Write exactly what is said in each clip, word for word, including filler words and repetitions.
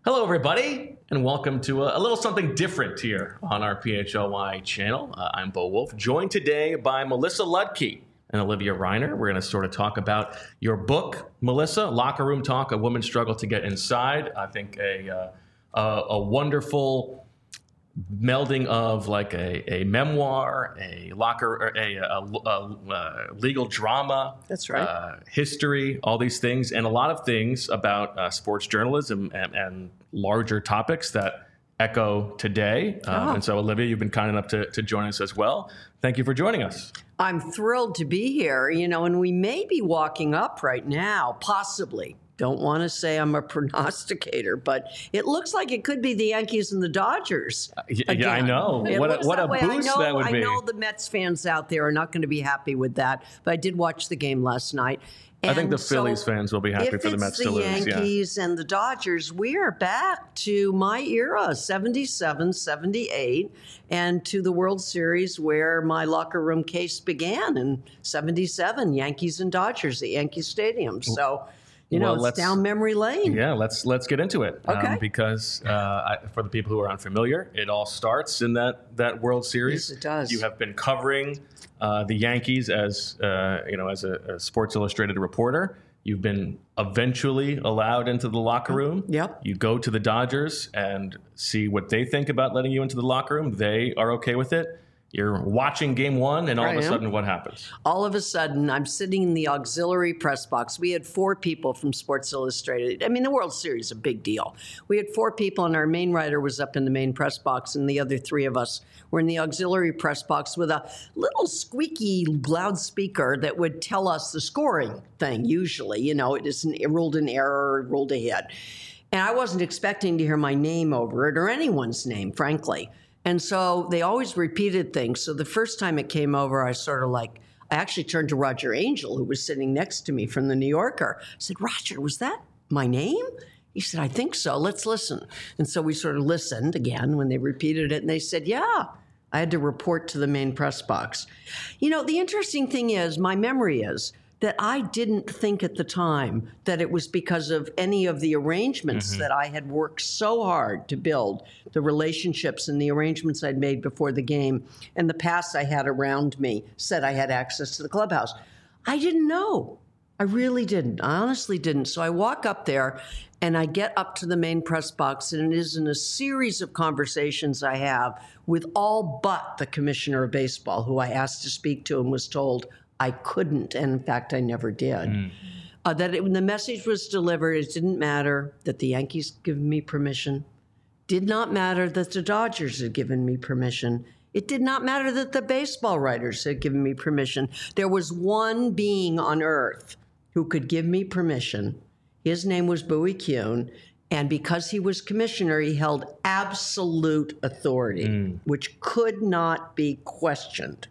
Hello, everybody, and welcome to a, a little something different here on our P H L Y channel. Uh, I'm Bo Wolf, joined today by Melissa Ludke and Olivia Reiner. We're going to sort of talk about your book, Melissa, Locker Room Talk, A Woman's Struggle to Get Inside. I think a, uh, a, a wonderful melding of like a, a memoir, a locker, a, a, a, a legal drama. That's right. Uh, history, all these things, and a lot of things about uh, sports journalism and, and larger topics that echo today. Um, Oh. And so, Olivia, you've been kind enough to, to join us as well. Thank you for joining us. I'm thrilled to be here, you know, and we may be walking up right now, possibly. Don't want to say I'm a prognosticator, but it looks like it could be the Yankees and the Dodgers. Uh, y- again. yeah, I know. It What a, looks what that a way. boost I know, that would be. I know the Mets fans out there are not going to be happy with that, but I did watch the game last night. I think the And so Phillies fans will be happy if for the it's Mets the to lose. Yeah. Yankees and the Dodgers, we are back to my era, seventy-seven, seventy-eight, and to the World Series where my locker room case began in seventy-seven, Yankees and Dodgers at Yankee Stadium. So, you know, Well, it's let's- down memory lane. Yeah, let's let's get into it. Okay. Um, because uh, I, for the people who are unfamiliar, it all starts in that that World Series. Yes, it does. You have been covering uh, the Yankees as uh, you know as a, a Sports Illustrated reporter. You've been eventually allowed into the locker room. Yep. You go to the Dodgers and see what they think about letting you into the locker room. They are okay with it. You're watching game one, and all I of a am. sudden, what happens? All of a sudden, I'm sitting in the auxiliary press box. We had four people from Sports Illustrated. I mean, the World Series is a big deal. We had four people, and our main writer was up in the main press box, and the other three of us were in the auxiliary press box with a little squeaky loudspeaker that would tell us the scoring thing, usually. You know, it isn't it ruled an error, it ruled a hit. And I wasn't expecting to hear my name over it or anyone's name, frankly. And so they always repeated things. So the first time it came over, I sort of like, I actually turned to Roger Angel, who was sitting next to me from the New Yorker. I said, Roger, was that my name? He said, I think so. Let's listen. And so we sort of listened again when they repeated it. And they said, yeah, I had to report to the main press box. You know, the interesting thing is, my memory is that I didn't think at the time that it was because of any of the arrangements Mm-hmm. that I had worked so hard to build, the relationships and the arrangements I'd made before the game, and the pass I had around me said I had access to the clubhouse. I didn't know. I really didn't. I honestly didn't. So I walk up there and I get up to the main press box, and it is in a series of conversations I have with all but the commissioner of baseball, who I asked to speak to and was told I couldn't, and in fact, I never did. Mm. Uh, that it, when the message was delivered, it didn't matter that the Yankees given me permission. Did not matter that the Dodgers had given me permission. It did not matter that the baseball writers had given me permission. There was one being on earth who could give me permission. His name was Bowie Kuhn, and because he was commissioner, he held absolute authority, Mm. which could not be questioned.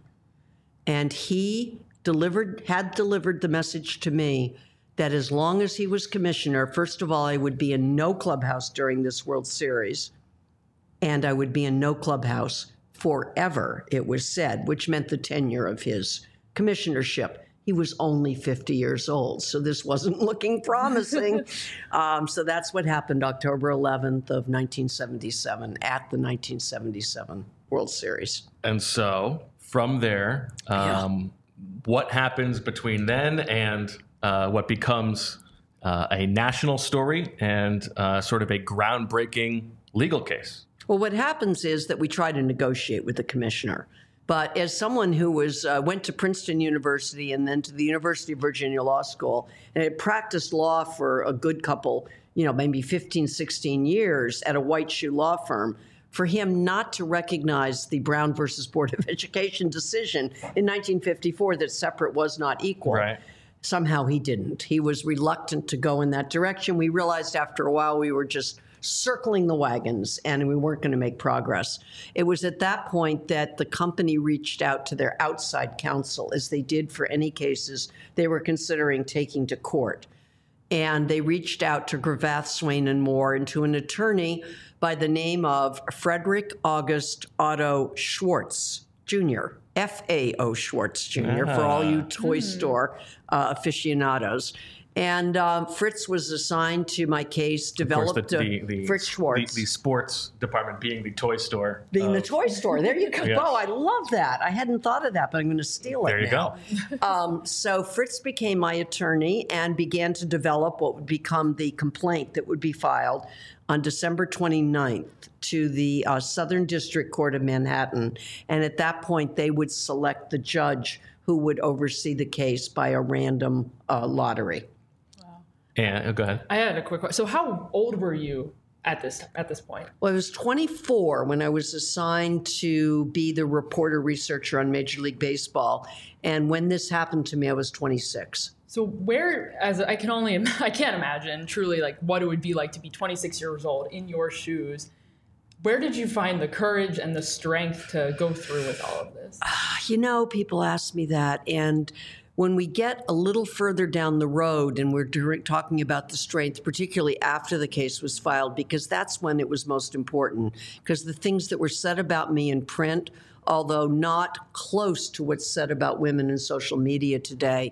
And he delivered, had delivered the message to me that as long as he was commissioner, first of all, I would be in no clubhouse during this World Series, and I would be in no clubhouse forever, it was said, which meant the tenure of his commissionership. He was only fifty years old, so this wasn't looking promising. um, so that's what happened October eleventh of nineteen seventy-seven at the nineteen seventy-seven World Series. And so from there, um, what happens between then and uh, what becomes uh, a national story and uh, sort of a groundbreaking legal case? Well, what happens is that we try to negotiate with the commissioner. But as someone who was uh, went to Princeton University and then to the University of Virginia Law School and had practiced law for a good couple, you know, maybe fifteen, sixteen years at a white shoe law firm, for him not to recognize the Brown versus Board of Education decision in nineteen fifty-four that separate was not equal. Right. Somehow he didn't. He was reluctant to go in that direction. We realized after a while we were just circling the wagons and we weren't going to make progress. It was at that point that the company reached out to their outside counsel, as they did for any cases they were considering taking to court. And they reached out to Gravatt, Swain, and Moore and to an attorney by the name of Frederick August Otto Schwartz, Junior F A O Schwartz, Junior, for all you toy store uh, aficionados. And um, Fritz was assigned to my case, developed of course, the, the, the, Fritz Schwartz. The, the sports department being the toy store. Being of, the toy store. There you go. Yes. Oh, I love that. I hadn't thought of that, but I'm going to steal it There you now. go. um, so Fritz became my attorney and began to develop what would become the complaint that would be filed on December twenty-ninth to the uh, Southern District Court of Manhattan. And at that point, they would select the judge who would oversee the case by a random uh, lottery. And oh, go ahead. I had a quick question. So how old were you at this at this point? Well, I was twenty-four when I was assigned to be the reporter researcher on Major League Baseball. And when this happened to me, I was twenty-six. So where, as I can only, I can't imagine truly like what it would be like to be twenty-six years old in your shoes. Where did you find the courage and the strength to go through with all of this? You know, people ask me that. And when we get a little further down the road and we're during, talking about the strength, particularly after the case was filed, because that's when it was most important, because the things that were said about me in print, although not close to what's said about women in social media today,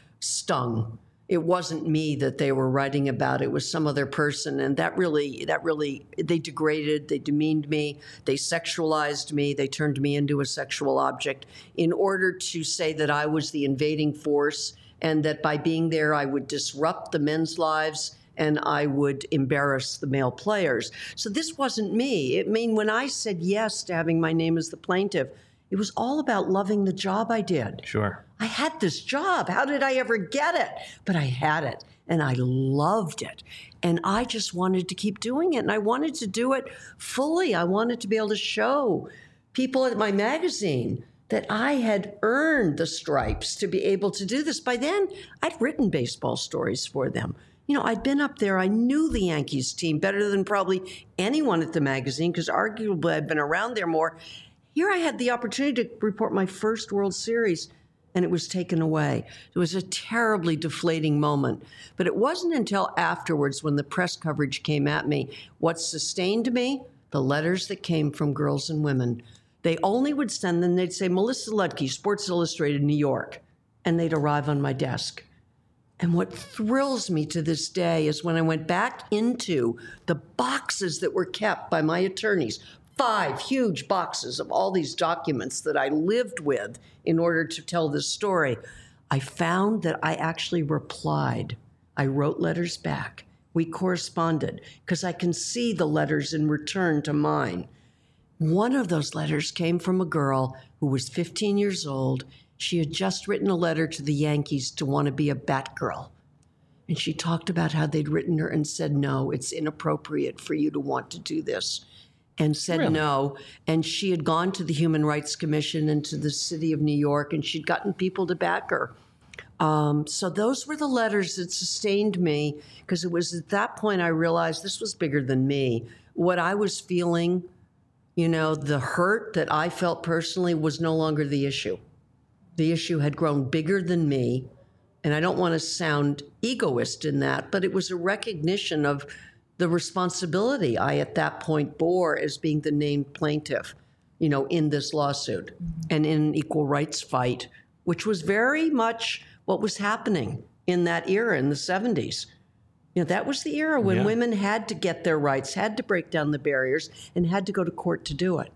stung. It wasn't me that they were writing about. It was some other person. And that really, that really, they degraded, they demeaned me, they sexualized me, they turned me into a sexual object in order to say that I was the invading force and that by being there, I would disrupt the men's lives and I would embarrass the male players. So this wasn't me. I mean, when I said yes to having my name as the plaintiff, it was all about loving the job I did. Sure. I had this job. How did I ever get it? But I had it, and I loved it. And I just wanted to keep doing it, and I wanted to do it fully. I wanted to be able to show people at my magazine that I had earned the stripes to be able to do this. By then, I'd written baseball stories for them. You know, I'd been up there. I knew the Yankees team better than probably anyone at the magazine because arguably I'd been around there more. Here I had the opportunity to report my first World Series, and it was taken away. It was a terribly deflating moment. But it wasn't until afterwards when the press coverage came at me. What sustained me? The letters that came from girls and women. They only would send them, they'd say, Melissa Ludke, Sports Illustrated, New York. And they'd arrive on my desk. And what thrills me to this day is when I went back into the boxes that were kept by my attorneys, five huge boxes of all these documents that I lived with in order to tell this story, I found that I actually replied. I wrote letters back. We corresponded because I can see the letters in return to mine. One of those letters came from a girl who was fifteen years old. She had just written a letter to the Yankees to want to be a Batgirl. And she talked about how they'd written her and said, no, it's inappropriate for you to want to do this. And said Really? no. And she had gone to the Human Rights Commission and to the city of New York, and she'd gotten people to back her. Um, so those were the letters that sustained me, because it was at that point I realized this was bigger than me. What I was feeling, you know, the hurt that I felt personally was no longer the issue. The issue had grown bigger than me. And I don't want to sound egoist in that, but it was a recognition of the responsibility I at that point bore as being the named plaintiff, you know, in this lawsuit and in an equal rights fight, which was very much what was happening in that era in the seventies. You know, that was the era when Yeah. women had to get their rights, had to break down the barriers, and had to go to court to do it.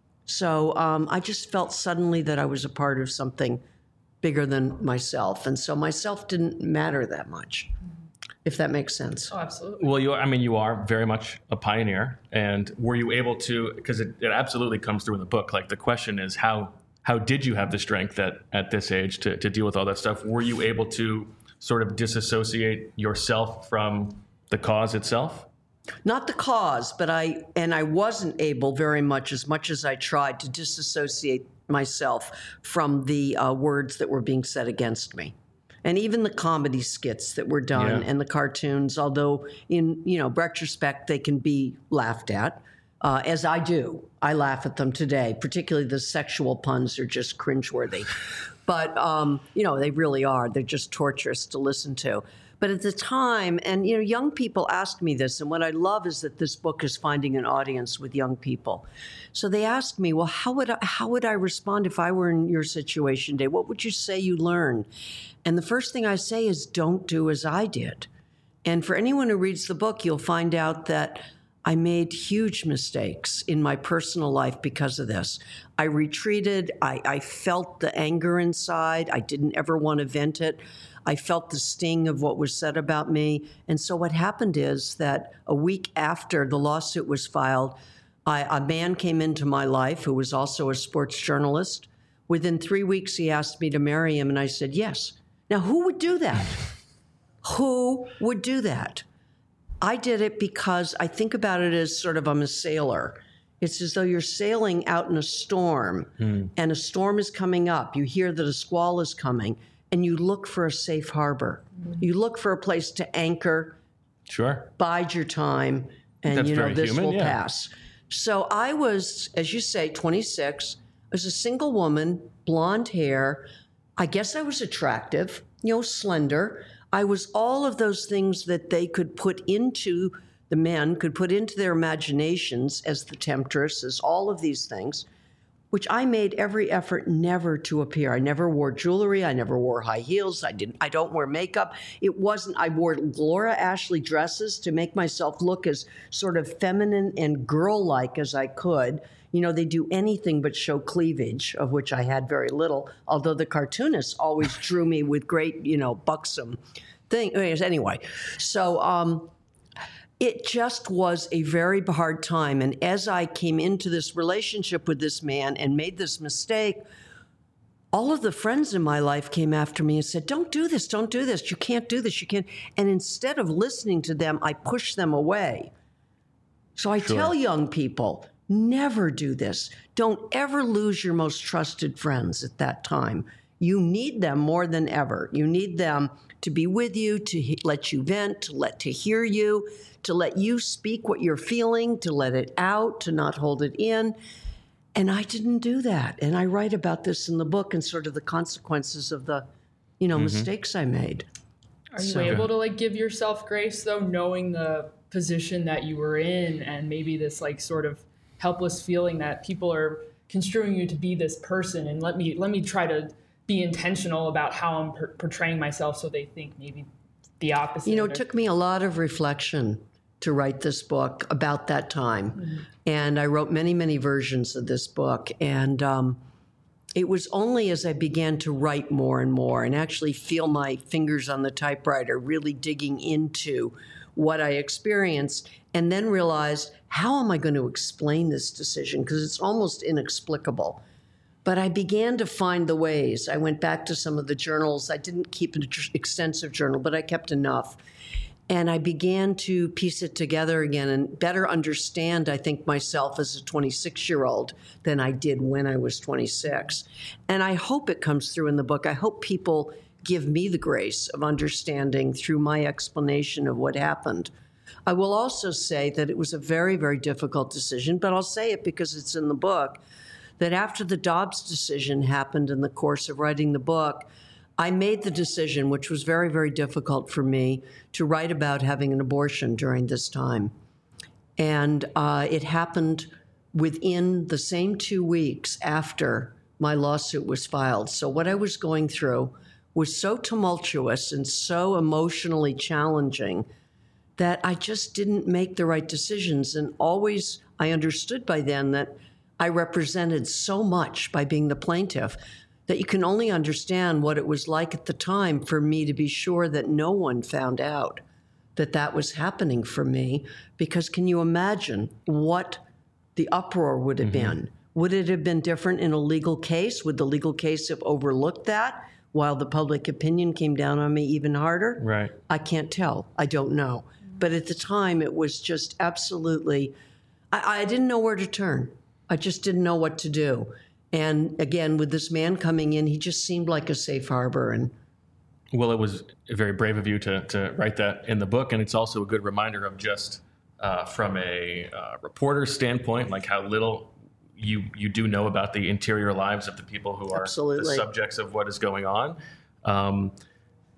So um, I just felt suddenly that I was a part of something bigger than myself. And so myself didn't matter that much, if that makes sense. Oh, absolutely. Well, you are, I mean, you are very much a pioneer. And were you able to, because it, it absolutely comes through in the book, like the question is how how did you have the strength at, at this age to, to deal with all that stuff? Were you able to sort of disassociate yourself from the cause itself? Not the cause, but I, and I wasn't able very much, as much as I tried, to disassociate myself from the uh, words that were being said against me. And even the comedy skits that were done Yeah. and the cartoons, although in, you know, retrospect, they can be laughed at, uh, as I do. I laugh at them today, particularly the sexual puns are just cringeworthy. But, um, you know, they really are. They're just torturous to listen to. But at the time, and you know, young people ask me this, and what I love is that this book is finding an audience with young people. So they ask me, well, how would I, how would I respond if I were in your situation, Dave? What would you say you learned? And the first thing I say is, don't do as I did. And for anyone who reads the book, you'll find out that I made huge mistakes in my personal life because of this. I retreated. I, I felt the anger inside. I didn't ever want to vent it. I felt the sting of what was said about me. And so what happened is that a week after the lawsuit was filed, I, a man came into my life who was also a sports journalist. Within three weeks, he asked me to marry him, and I said yes. Now, who would do that? Who would do that? I did it because I think about it as sort of I'm a sailor. It's as though you're sailing out in a storm, mm. and a storm is coming up. You hear that a squall is coming, and you look for a safe harbor. Mm. You look for a place to anchor, sure, bide your time, and That's you know very this human, will yeah. pass. So I was, as you say, twenty-six. I was a single woman, blonde hair. I guess I was attractive, you know, slender. I was all of those things that they could put into, the men could put into their imaginations as the temptress, as all of these things, which I made every effort never to appear. I never wore jewelry. I never wore high heels. I didn't. I don't wear makeup. It wasn't, I wore Laura Ashley dresses to make myself look as sort of feminine and girl-like as I could. You know, they do anything but show cleavage, of which I had very little, although the cartoonists always drew me with great, you know, buxom things. Anyway, so um, it just was a very hard time. And as I came into this relationship with this man and made this mistake, all of the friends in my life came after me and said, don't do this, don't do this, you can't do this, you can't. And instead of listening to them, I pushed them away. So I Sure. tell young people, never do this. Don't ever lose your most trusted friends at that time. You need them more than ever. You need them to be with you, to he- let you vent, to let to hear you, to let you speak what you're feeling, to let it out, to not hold it in. And I didn't do that. And I write about this in the book and sort of the consequences of the, you know, mm-hmm. mistakes I made. Are you So able good. to like give yourself grace though, knowing the position that you were in and maybe this like sort of helpless feeling that people are construing you to be this person, and let me let me try to be intentional about how I'm per- portraying myself so they think maybe the opposite. You know, or- it took me a lot of reflection to write this book about that time. Mm-hmm. And I wrote many, many versions of this book. And um, it was only as I began to write more and more and actually feel my fingers on the typewriter, really digging into what I experienced, and then realized, how am I going to explain this decision? Because it's almost inexplicable. But I began to find the ways. I went back to some of the journals. I didn't keep an extensive journal, but I kept enough. And I began to piece it together again and better understand, I think, myself as a twenty-six-year-old than I did when I was twenty-six. And I hope it comes through in the book. I hope people give me the grace of understanding through my explanation of what happened. I will also say that it was a very, very difficult decision, but I'll say it because it's in the book, that after the Dobbs decision happened in the course of writing the book, I made the decision, which was very, very difficult for me, to write about having an abortion during this time. And uh, it happened within the same two weeks after my lawsuit was filed. So what I was going through was so tumultuous and so emotionally challenging that I just didn't make the right decisions. And always, I understood by then that I represented so much by being the plaintiff that you can only understand what it was like at the time for me to be sure that no one found out that that was happening for me. Because can you imagine what the uproar would have mm-hmm. been? Would it have been different in a legal case? Would the legal case have overlooked that while the public opinion came down on me even harder? Right. I can't tell. I don't know. But at the time, it was just absolutely, I, I didn't know where to turn. I just didn't know what to do. And again, with this man coming in, he just seemed like a safe harbor. And well, it was very brave of you to, to write that in the book. And it's also a good reminder of just uh, from a uh, reporter standpoint, like how little you you do know about the interior lives of the people who are Absolutely. the subjects of what is going on. Um,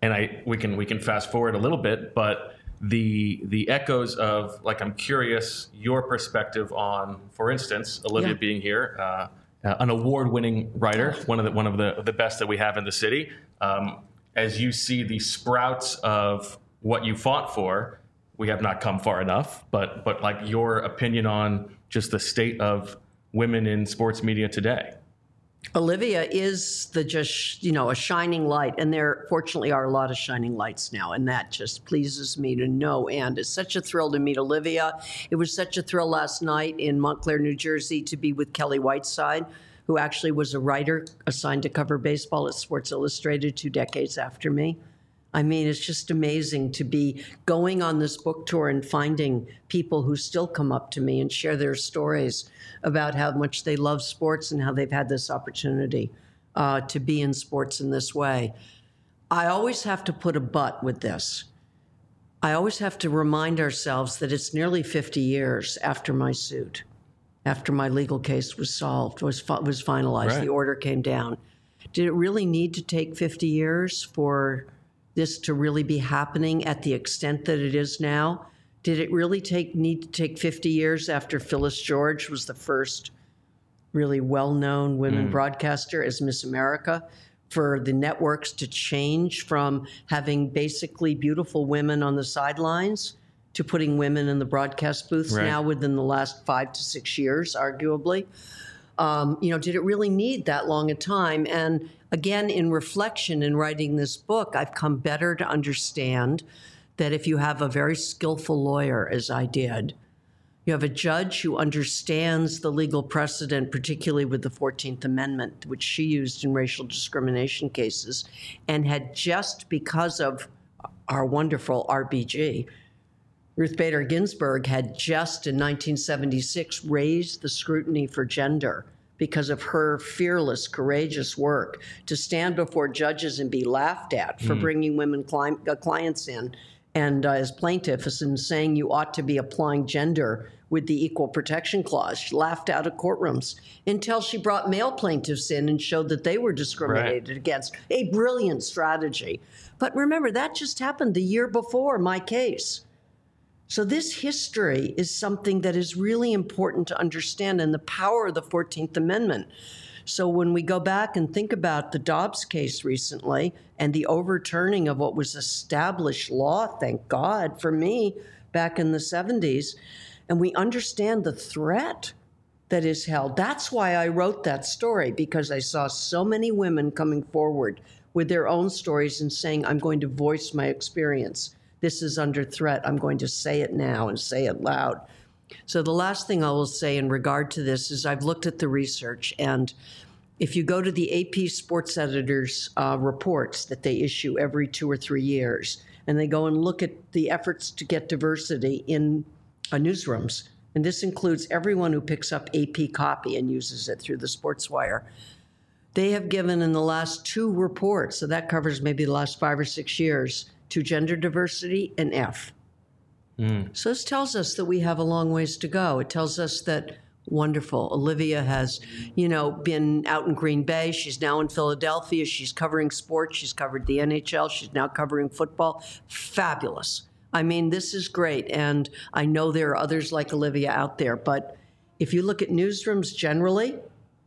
and I we can we can fast forward a little bit, but the the echoes of, like, I'm curious your perspective on, for instance, Olivia Yeah. being here, uh, uh, an award-winning writer, one of the one of the the best that we have in the city. Um, as you see the sprouts of what you fought for, we have not come far enough. But but like your opinion on just the state of women in sports media today. Olivia is the just, you know, a shining light. And there fortunately are a lot of shining lights now. And that just pleases me to no end. It's such a thrill to meet Olivia. It was such a thrill last night in Montclair, New Jersey, to be with Kelly Whiteside, who actually was a writer assigned to cover baseball at Sports Illustrated two decades after me. I mean, it's just amazing to be going on this book tour and finding people who still come up to me and share their stories about how much they love sports and how they've had this opportunity uh, to be in sports in this way. I always have to put a but with this. I always have to remind ourselves that it's nearly fifty years after my suit, after my legal case was solved, was, was finalized, Right. The order came down. Did it really need to take fifty years for this to really be happening at the extent that it is now? Did it really take need to take fifty years after Phyllis George was the first really well-known women broadcaster as Miss America for the networks to change from having basically beautiful women on the sidelines to putting women in the broadcast booths Right. now within the last five to six years, arguably? Um, you know, did it really need that long a time? And again, in reflection in writing this book, I've come better to understand that if you have a very skillful lawyer, as I did, you have a judge who understands the legal precedent, particularly with the fourteenth Amendment, which she used in racial discrimination cases, and had just because of our wonderful R B G, Ruth Bader Ginsburg had just in nineteen seventy-six raised the scrutiny for gender because of her fearless, courageous work to stand before judges and be laughed at for bringing women cli- uh, clients in and uh, as plaintiffs and saying you ought to be applying gender with the Equal Protection Clause. She laughed out of courtrooms until she brought male plaintiffs in and showed that they were discriminated Right. against. A brilliant strategy. But remember, that just happened the year before my case. So this history is something that is really important to understand, and the power of the fourteenth Amendment. So when we go back and think about the Dobbs case recently and the overturning of what was established law, thank God for me, back in the seventies, and we understand the threat that is held. That's why I wrote that story, because I saw so many women coming forward with their own stories and saying, I'm going to voice my experience. This is under threat. I'm going to say it now and say it loud. So the last thing I will say in regard to this is I've looked at the research, and if you go to the A P Sports Editors uh, reports that they issue every two or three years, and they go and look at the efforts to get diversity in uh, newsrooms, and this includes everyone who picks up A P copy and uses it through the Sports Wire, they have given in the last two reports, so that covers maybe the last five or six years, to gender diversity and F. Mm. So this tells us that we have a long ways to go. It tells us that, wonderful, Olivia has, you know, been out in Green Bay. She's now in Philadelphia. She's covering sports. She's covered the N H L. She's now covering football. Fabulous. I mean, this is great. And I know there are others like Olivia out there. But if you look at newsrooms generally,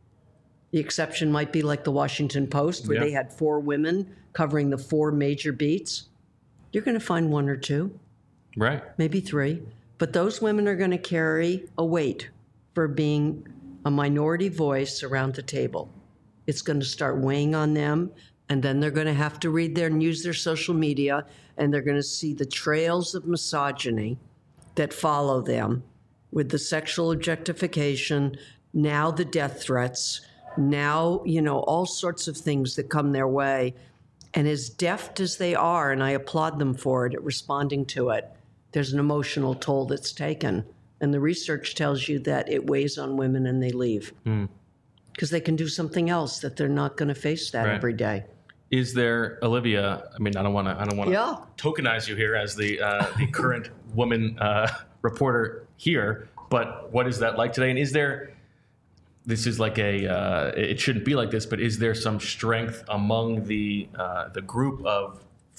the exception might be like the Washington Post, where Yeah. they had four women covering the four major beats. You're going to find one or two, Right. maybe three. But those women are going to carry a weight for being a minority voice around the table. It's going to start weighing on them, and then they're going to have to read their and use their social media, and they're going to see the trails of misogyny that follow them with the sexual objectification, now the death threats, now, you know, all sorts of things that come their way. And as deft as they are, and I applaud them for it, at responding to it, there's an emotional toll that's taken. And the research tells you that it weighs on women and they leave. Because mm. they can do something else that they're not going to face that Right. every day. Is there, Olivia? I mean, I don't want to. I don't want to Yeah. tokenize you here as the uh, the current woman uh, reporter here. But what is that like today? And is there? This is like a. Uh, it shouldn't be like this, but is there some strength among the uh, the group of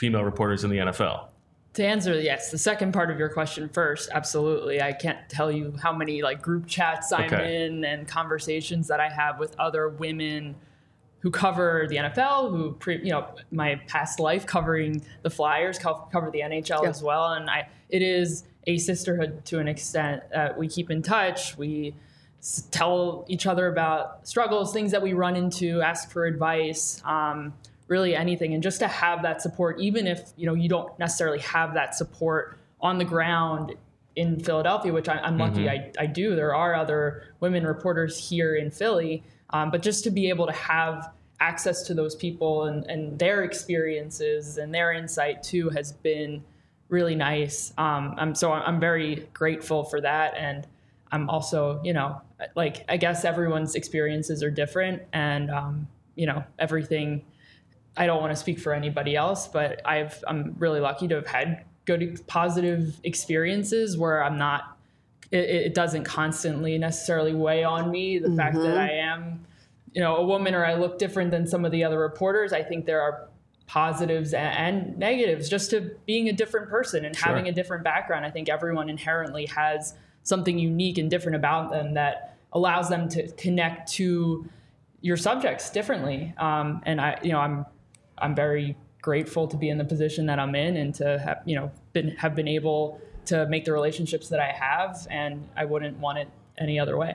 female reporters in the N F L? To answer, yes, the second part of your question first, absolutely. I can't tell you how many like group chats I'm Okay. in and conversations that I have with other women who cover the N F L, who, pre, you know, my past life covering the Flyers, co- cover the N H L Yeah. as well. And I, it is a sisterhood to an extent. Uh, we keep in touch. We s- tell each other about struggles, things that we run into, ask for advice. Um, really anything, and just to have that support, even if you know you don't necessarily have that support on the ground in Philadelphia, which I, I'm lucky I, I do. There are other women reporters here in Philly, um, but just to be able to have access to those people and, and their experiences and their insight too has been really nice. Um, I'm so I'm very grateful for that, and I'm also you know like I guess everyone's experiences are different, and um, you know everything. I don't want to speak for anybody else, but I've, I'm really lucky to have had good, positive experiences where I'm not, it, it doesn't constantly necessarily weigh on me. The mm-hmm. fact that I am, you know, a woman or I look different than some of the other reporters, I think there are positives and, and negatives just to being a different person and Sure. having a different background. I think everyone inherently has something unique and different about them that allows them to connect to your subjects differently. Um, and I, you know, I'm, I'm very grateful to be in the position that I'm in and to have, you know, been, have been able to make the relationships that I have, and I wouldn't want it any other way.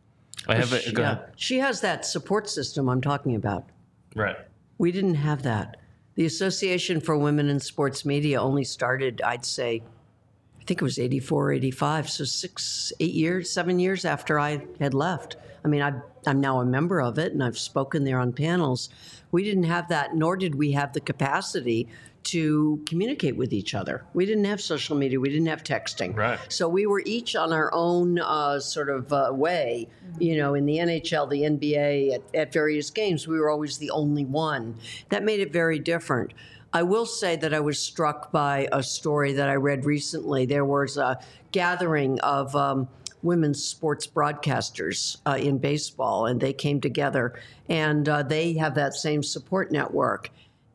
I have a, she, go yeah. ahead. She has that support system I'm talking about. Right. We didn't have that. The Association for Women in Sports Media only started, I'd say, I think it was eighty-four, eighty-five, so six, eight years, seven years after I had left. I mean, I've, I'm now a member of it, and I've spoken there on panels. We didn't have that, nor did we have the capacity to communicate with each other. We didn't have social media. We didn't have texting. Right. So we were each on our own uh, sort of uh, way. Mm-hmm. You know, in the N H L, the N B A, at, at various games, we were always the only one. That made it very different. I will say that I was struck by a story that I read recently. There was a gathering of um, women's sports broadcasters uh, in baseball, and they came together, and uh, they have that same support network.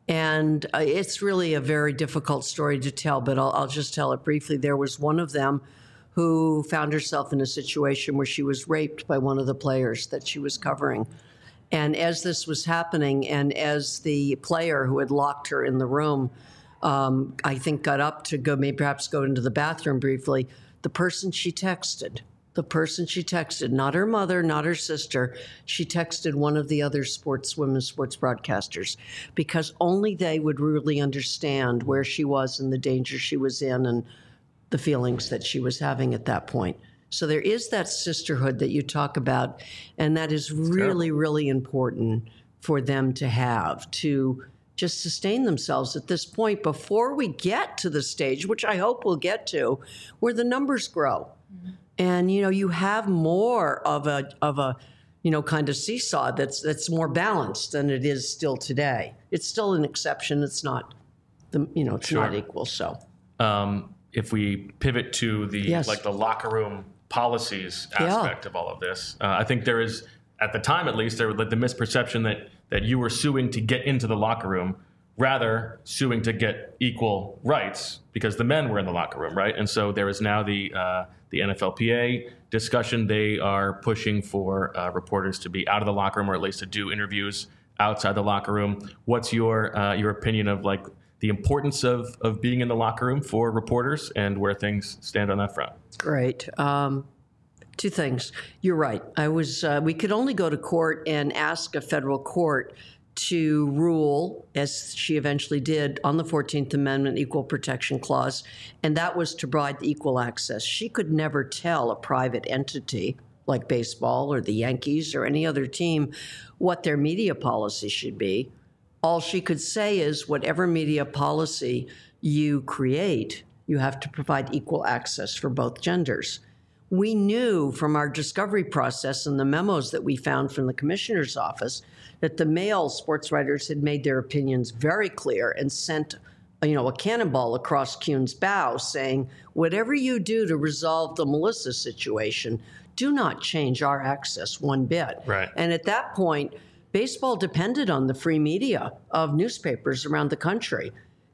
And uh, it's really a very difficult story to tell, but I'll, I'll just tell it briefly. There was one of them who found herself in a situation where she was raped by one of the players that she was covering. And as this was happening, and as the player who had locked her in the room, um, I think got up to go, maybe perhaps go into the bathroom briefly, the person she texted, the person she texted, not her mother, not her sister, she texted one of the other sports, women's sports broadcasters, because only they would really understand where she was and the danger she was in and the feelings that she was having at that point. So there is that sisterhood that you talk about, and that is really, really important for them to have, to just sustain themselves at this point before we get to the stage, which I hope we'll get to, where the numbers grow. Mm-hmm. And, you know, you have more of a, of a, you know, kind of seesaw that's that's more balanced than it is still today. It's still an exception. It's not, the you know, it's Sure. not equal. So, um, if we pivot to the Yes. like the locker room policies aspect Yeah. of all of this, uh, I think there is, at the time at least, there was like the misperception that that you were suing to get into the locker room, rather suing to get equal rights because the men were in the locker room, right? And so there is now the uh, the N F L P A discussion. They are pushing for uh, reporters to be out of the locker room, or at least to do interviews outside the locker room. What's your uh, your opinion of like the importance of of being in the locker room for reporters and where things stand on that front? Great. Um, two things. You're right. I was. Uh, we could only go to court and ask a federal court to rule, as she eventually did, on the fourteenth Amendment Equal Protection Clause, and that was to provide equal access. She could never tell a private entity like baseball or the Yankees or any other team what their media policy should be. All she could say is whatever media policy you create, you have to provide equal access for both genders. We knew from our discovery process and the memos that we found from the commissioner's office that the male sports writers had made their opinions very clear and sent, you know, a cannonball across Kuhn's bow saying, whatever you do to resolve the Melissa situation, do not change our access one bit. Right. And at that point, baseball depended on the free media of newspapers around the country.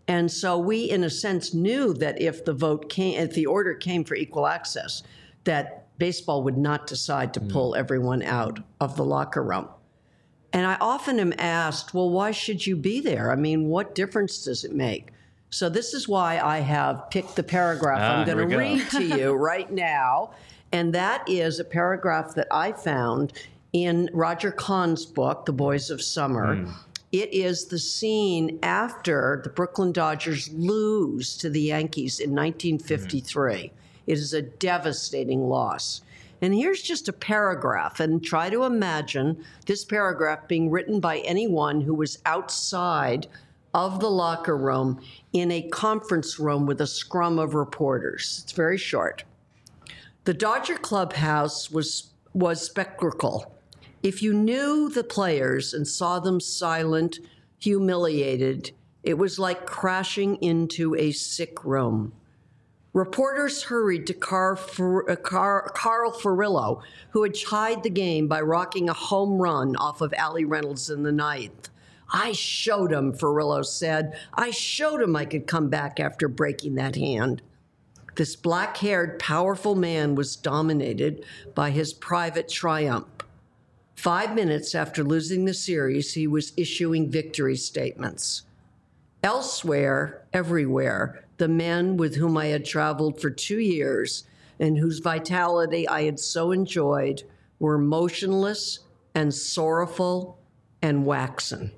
And so we, in a sense, knew that if the vote came, if the order came for equal access, that baseball would not decide to pull everyone out of the locker room. And I often am asked, well, why should you be there? I mean, what difference does it make? So this is why I have picked the paragraph Ah, I'm here going we to go. read to you right now. And that is a paragraph that I found in Roger Kahn's book, The Boys of Summer. Mm. It is the scene after the Brooklyn Dodgers lose to the Yankees in nineteen fifty-three. Mm. It is a devastating loss. And here's just a paragraph, and try to imagine this paragraph being written by anyone who was outside of the locker room in a conference room with a scrum of reporters. It's very short. The Dodger clubhouse was, was spectacle. If you knew the players and saw them silent, humiliated, it was like crashing into a sick room. Reporters hurried to Carl, Carl, Carl Furillo, who had tied the game by rocking a home run off of Allie Reynolds in the ninth. I showed him, Furillo said. I showed him I could come back after breaking that hand. This black-haired, powerful man was dominated by his private triumph. Five minutes after losing the series, he was issuing victory statements. Elsewhere, everywhere, the men with whom I had traveled for two years and whose vitality I had so enjoyed were motionless and sorrowful and waxen.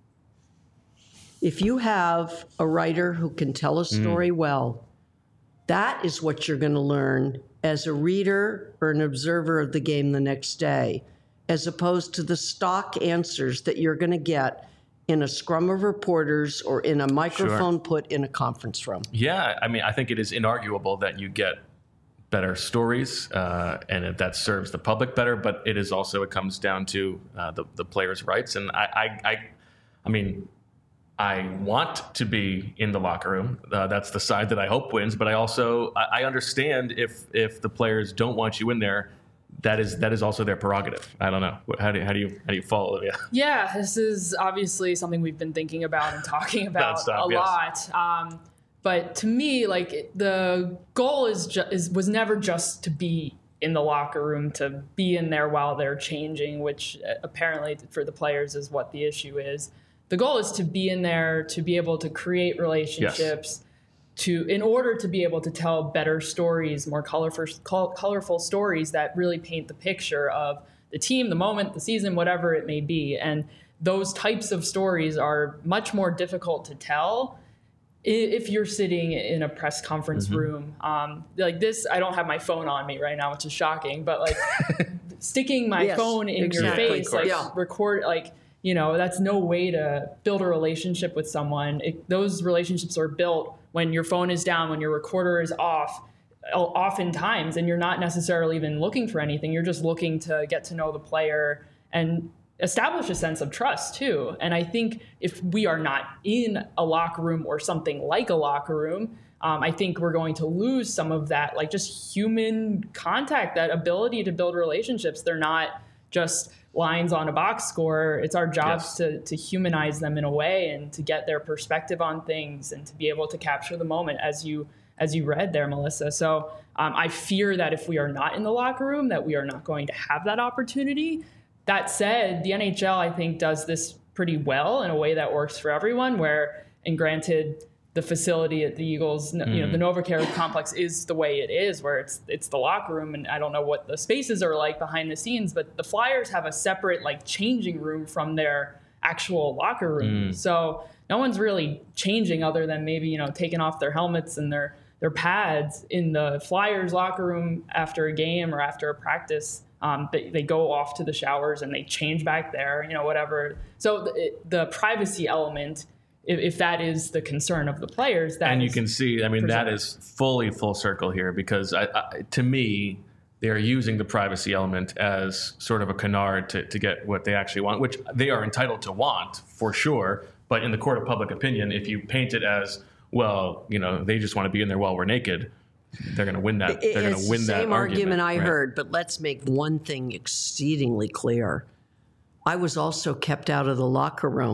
If you have a writer who can tell a story mm. well, that is what you're going to learn as a reader or an observer of the game the next day, as opposed to the stock answers that you're going to get in a scrum of reporters or in a microphone sure. put in a conference room. Yeah, I mean, I think it is inarguable that you get better stories uh, and that serves the public better, but it is also, it comes down to uh, the, the players' rights. And I, I, I, I mean, I want to be in the locker room. Uh, that's the side that I hope wins, but I also, I, I understand if if the players don't want you in there, that is that is also their prerogative. I don't know. How do you, how do you how do you follow, Olivia? Yeah, this is obviously something we've been thinking about and talking about stop, a yes. lot. Um, but to me, like the goal is ju- is was never just to be in the locker room, to be in there while they're changing, which apparently for the players is what the issue is. The goal is to be in there, to be able to create relationships. Yes. To, in order to be able to tell better stories, more colorful, colorful stories that really paint the picture of the team, the moment, the season, whatever it may be. And those types of stories are much more difficult to tell if you're sitting in a press conference mm-hmm. room. Um, like this, I don't have my phone on me right now, which is shocking, but like sticking my yes, phone in exactly, your face, like yeah. record, like, you know, that's no way to build a relationship with someone. It, those relationships are built when your phone is down, when your recorder is off, oftentimes, and you're not necessarily even looking for anything. You're just looking to get to know the player and establish a sense of trust too. And I think if we are not in a locker room or something like a locker room, um, I think we're going to lose some of that, like just human contact, that ability to build relationships. They're not just lines on a box score. It's our jobs yes. to to humanize them in a way and to get their perspective on things and to be able to capture the moment as you as you read there, Melissa. So um, I fear that if we are not in the locker room, that we are not going to have that opportunity. That said, the N H L, I think, does this pretty well in a way that works for everyone, where, and granted, the facility at the Eagles, mm. you know, the NovaCare complex is the way it is, where it's it's the locker room, and I don't know what the spaces are like behind the scenes, but the Flyers have a separate like changing room from their actual locker room. Mm. So no one's really changing other than maybe, you know, taking off their helmets and their their pads in the Flyers locker room after a game or after a practice. Um, they, they go off to the showers and they change back there, you know, whatever. So the, the privacy element, if, if that is the concern of the players, that and you is can see, I mean, presented. that is fully full circle here, because I, I, to me, they're using the privacy element as sort of a canard to, to get what they actually want, which they are entitled to want for sure. But in the court of public opinion, if you paint it as, well, you know, they just want to be in there while we're naked, they're going to win that. They're going to win that argument. It's the same argument I right? heard, but let's make one thing exceedingly clear. I was also kept out of the locker room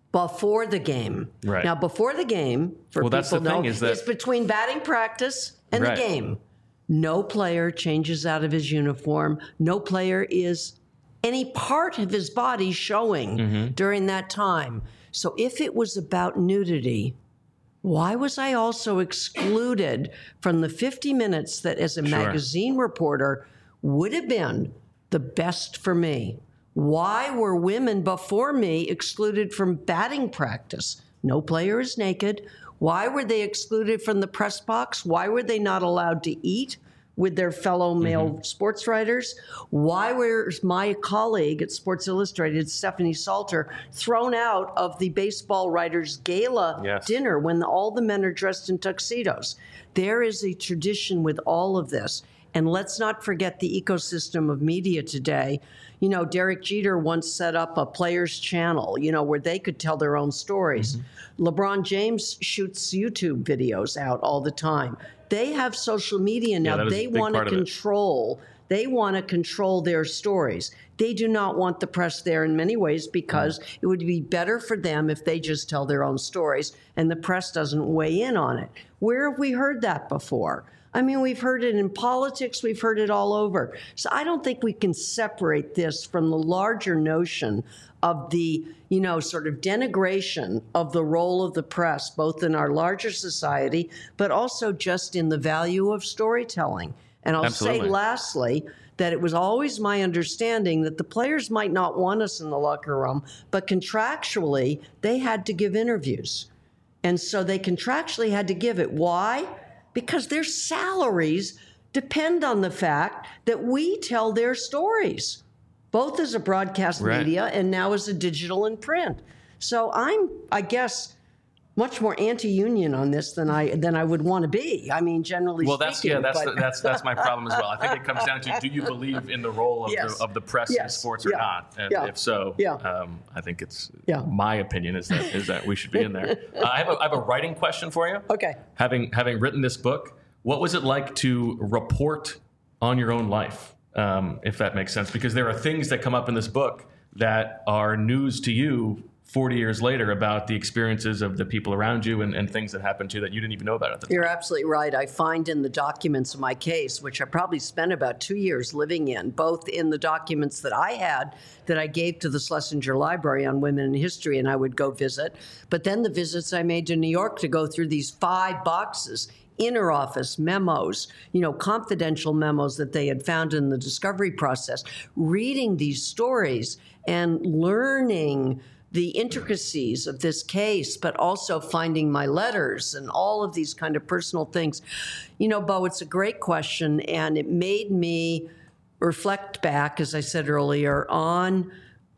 before the game. Right. Now, before the game, for Well, people that's the know, thing is that- it's between batting practice and Right. the game. No player changes out of his uniform. No player is any part of his body showing Mm-hmm. during that time. So if it was about nudity, why was I also excluded from the fifty minutes that as a Sure. magazine reporter would have been the best for me? Why were women before me excluded from batting practice? No player is naked. Why were they excluded from the press box? Why were they not allowed to eat with their fellow male Mm-hmm. sports writers? Why was my colleague at Sports Illustrated, Stephanie Salter, thrown out of the baseball writers' gala Yes. dinner when all the men are dressed in tuxedos? There is a tradition with all of this. And let's not forget the ecosystem of media today. You know, Derek Jeter once set up a players' channel, you know, where they could tell their own stories. Mm-hmm. LeBron James shoots YouTube videos out all the time. They have social media now. that is a They big want to part of it. control. They want to control their stories. They do not want the press there in many ways because Mm. it would be better for them if they just tell their own stories and the press doesn't weigh in on it. Where have we heard that before? I mean, we've heard it in politics. We've heard it all over. So I don't think we can separate this from the larger notion of the, you know, sort of denigration of the role of the press, both in our larger society, but also just in the value of storytelling. And I'll Absolutely. say lastly, that it was always my understanding that the players might not want us in the locker room, but contractually, they had to give interviews. And so they contractually had to give it. Why? Because their salaries depend on the fact that we tell their stories, both as a broadcast Right. media and now as a digital and print. So I'm, I guess, much more anti-union on this than I than I would want to be. I mean, generally Well, that's speaking. yeah, that's but- the, that's that's my problem as well. I think it comes down to: do you believe in the role of, Yes. the, of the press in Yes. sports or Yeah. not? And Yeah. if so, Yeah. um, I think it's Yeah. my opinion is that is that we should be in there. Uh, I have a, I have a writing question for you. Okay. Having having written this book, what was it like to report on your own life, um, if that makes sense? Because there are things that come up in this book that are news to you forty years later about the experiences of the people around you and, and things that happened to you that you didn't even know about at the time. You're absolutely right. I find in the documents of my case, which I probably spent about two years living in, both in the documents that I had that I gave to the Schlesinger Library on women in history, and I would go visit, but then the visits I made to New York to go through these five boxes, inner office memos, you know, confidential memos that they had found in the discovery process, reading these stories and learning the intricacies of this case, but also finding my letters and all of these kind of personal things. You know, Bo, it's a great question, and it made me reflect back, as I said earlier, on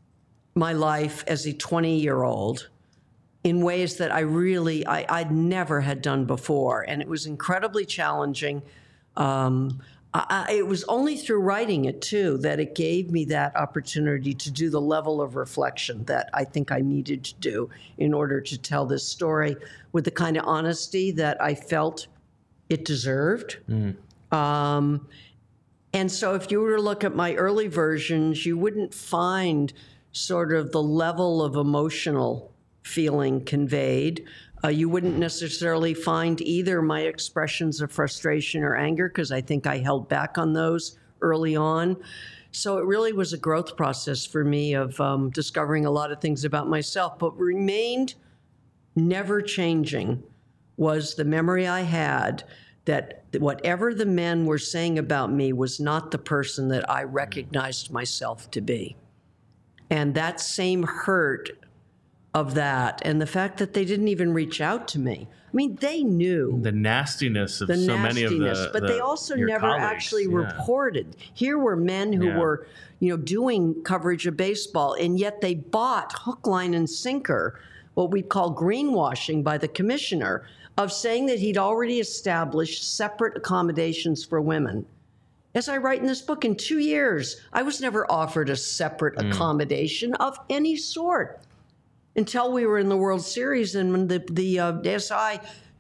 my life as a twenty-year-old in ways that I really, I, I'd never had done before. And it was incredibly challenging. Um, I, I, it was only through writing it, too, that it gave me that opportunity to do the level of reflection that I think I needed to do in order to tell this story with the kind of honesty that I felt it deserved. Um, and so if you were to look at my early versions, you wouldn't find sort of the level of emotional feeling conveyed. Uh, you wouldn't necessarily find either my expressions of frustration or anger, because I think I held back on those early on. So it really was a growth process for me of um, discovering a lot of things about myself, but remained never changing was the memory I had that whatever the men were saying about me was not the person that I recognized myself to be. And that same hurt of that, and the fact that they didn't even reach out to me. I mean, they knew The nastiness of the so nastiness, many of the but the- they also your never colleagues. actually Yeah. reported. Here were men who Yeah. were, you know, doing coverage of baseball, and yet they bought hook, line, and sinker, what we call greenwashing by the commissioner, of saying that he'd already established separate accommodations for women. As I write in this book, in two years, I was never offered a separate Mm. accommodation of any sort until we were in the World Series, and when the, the uh, S I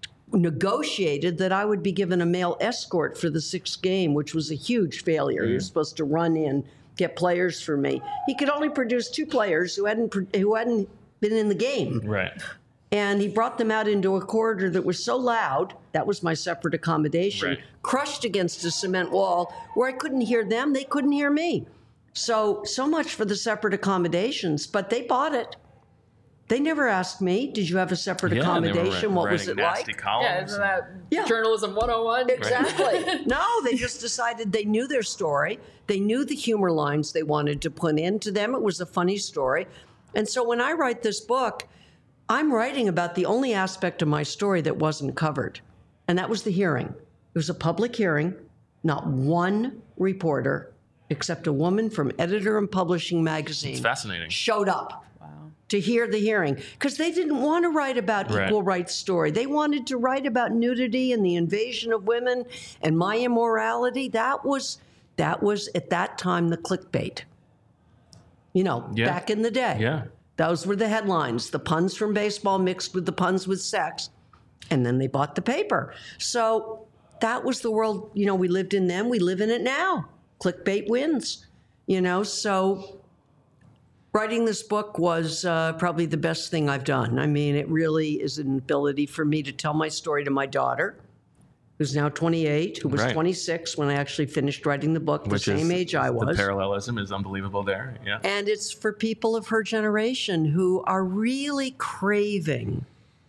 negotiated that I would be given a male escort for the sixth game, which was a huge failure. He was supposed to run in, get players for me. He could only produce two players who hadn't pro- who hadn't been in the game. Right. And he brought them out into a corridor that was so loud, that was my separate accommodation, Right. crushed against a cement wall where I couldn't hear them, they couldn't hear me. So, so much for the separate accommodations, but they bought it. They never asked me, did you have a separate Yeah, they were accommodation? wri- What was writing it nasty like? columns. Yeah, isn't that Yeah. journalism one oh one? Exactly. No, they just decided they knew their story. They knew the humor lines they wanted to put in. To them, it was a funny story. And so when I write this book, I'm writing about the only aspect of my story that wasn't covered, and that was the hearing. It was a public hearing. Not one reporter, except a woman from Editor and Publishing Magazine, It's fascinating. showed up to hear the hearing because they didn't want to write about Right. equal rights story. They wanted to write about nudity and the invasion of women and my immorality. That was that was at that time the clickbait. You know, Yeah. back in the day. Yeah. Those were the headlines, the puns from baseball mixed with the puns with sex. And then they bought the paper. So that was the world, you know, we lived in then, we live in it now. Clickbait wins, you know, so writing this book was uh, probably the best thing I've done. I mean, it really is an ability for me to tell my story to my daughter, who's now twenty-eight, who was Right. twenty-six when I actually finished writing the book, the Which same is, age I The was. parallelism is unbelievable there. Yeah. And it's for people of her generation who are really craving,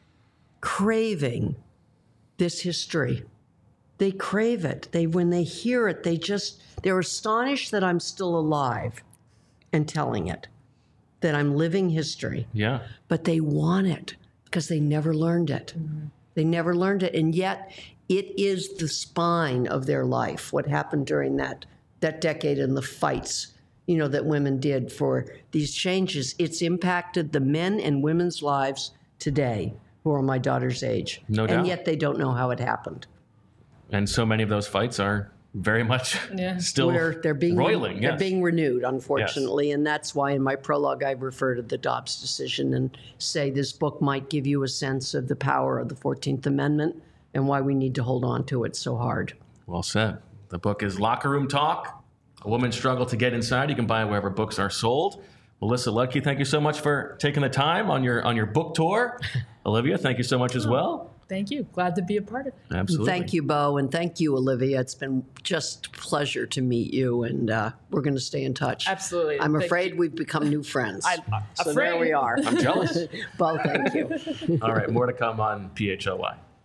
craving this history. They crave it. They, when they hear it, they just, they're astonished that I'm still alive and telling it, that I'm living history. Yeah. But they want it because they never learned it. They never learned it. And yet it is the spine of their life, what happened during that, that decade and the fights, you know, that women did for these changes. It's impacted the men and women's lives today who are my daughter's age. No doubt. And yet they don't know how it happened. And so many of those fights are very much Yeah. still Where they're being roiling. they're Yes. being renewed, unfortunately, and that's why in my prologue I refer to the Dobbs decision and say this book might give you a sense of the power of the fourteenth Amendment and why we need to hold on to it so hard. Well said. The book is Locker Room Talk, A Woman's Struggle to Get Inside. You can buy it wherever books are sold. Melissa Ludke, thank you so much for taking the time on your on your book tour. Olivia, thank you so much as well. Thank you. Glad to be a part of it. Absolutely. Thank you, Bo, and thank you, Olivia. It's been just a pleasure to meet you, and uh, we're going to stay in touch. Absolutely. I'm Thank afraid you. we've become new friends. I- so afraid. there we are. I'm jealous. Bo, thank you. All right, more to come on P H O Y.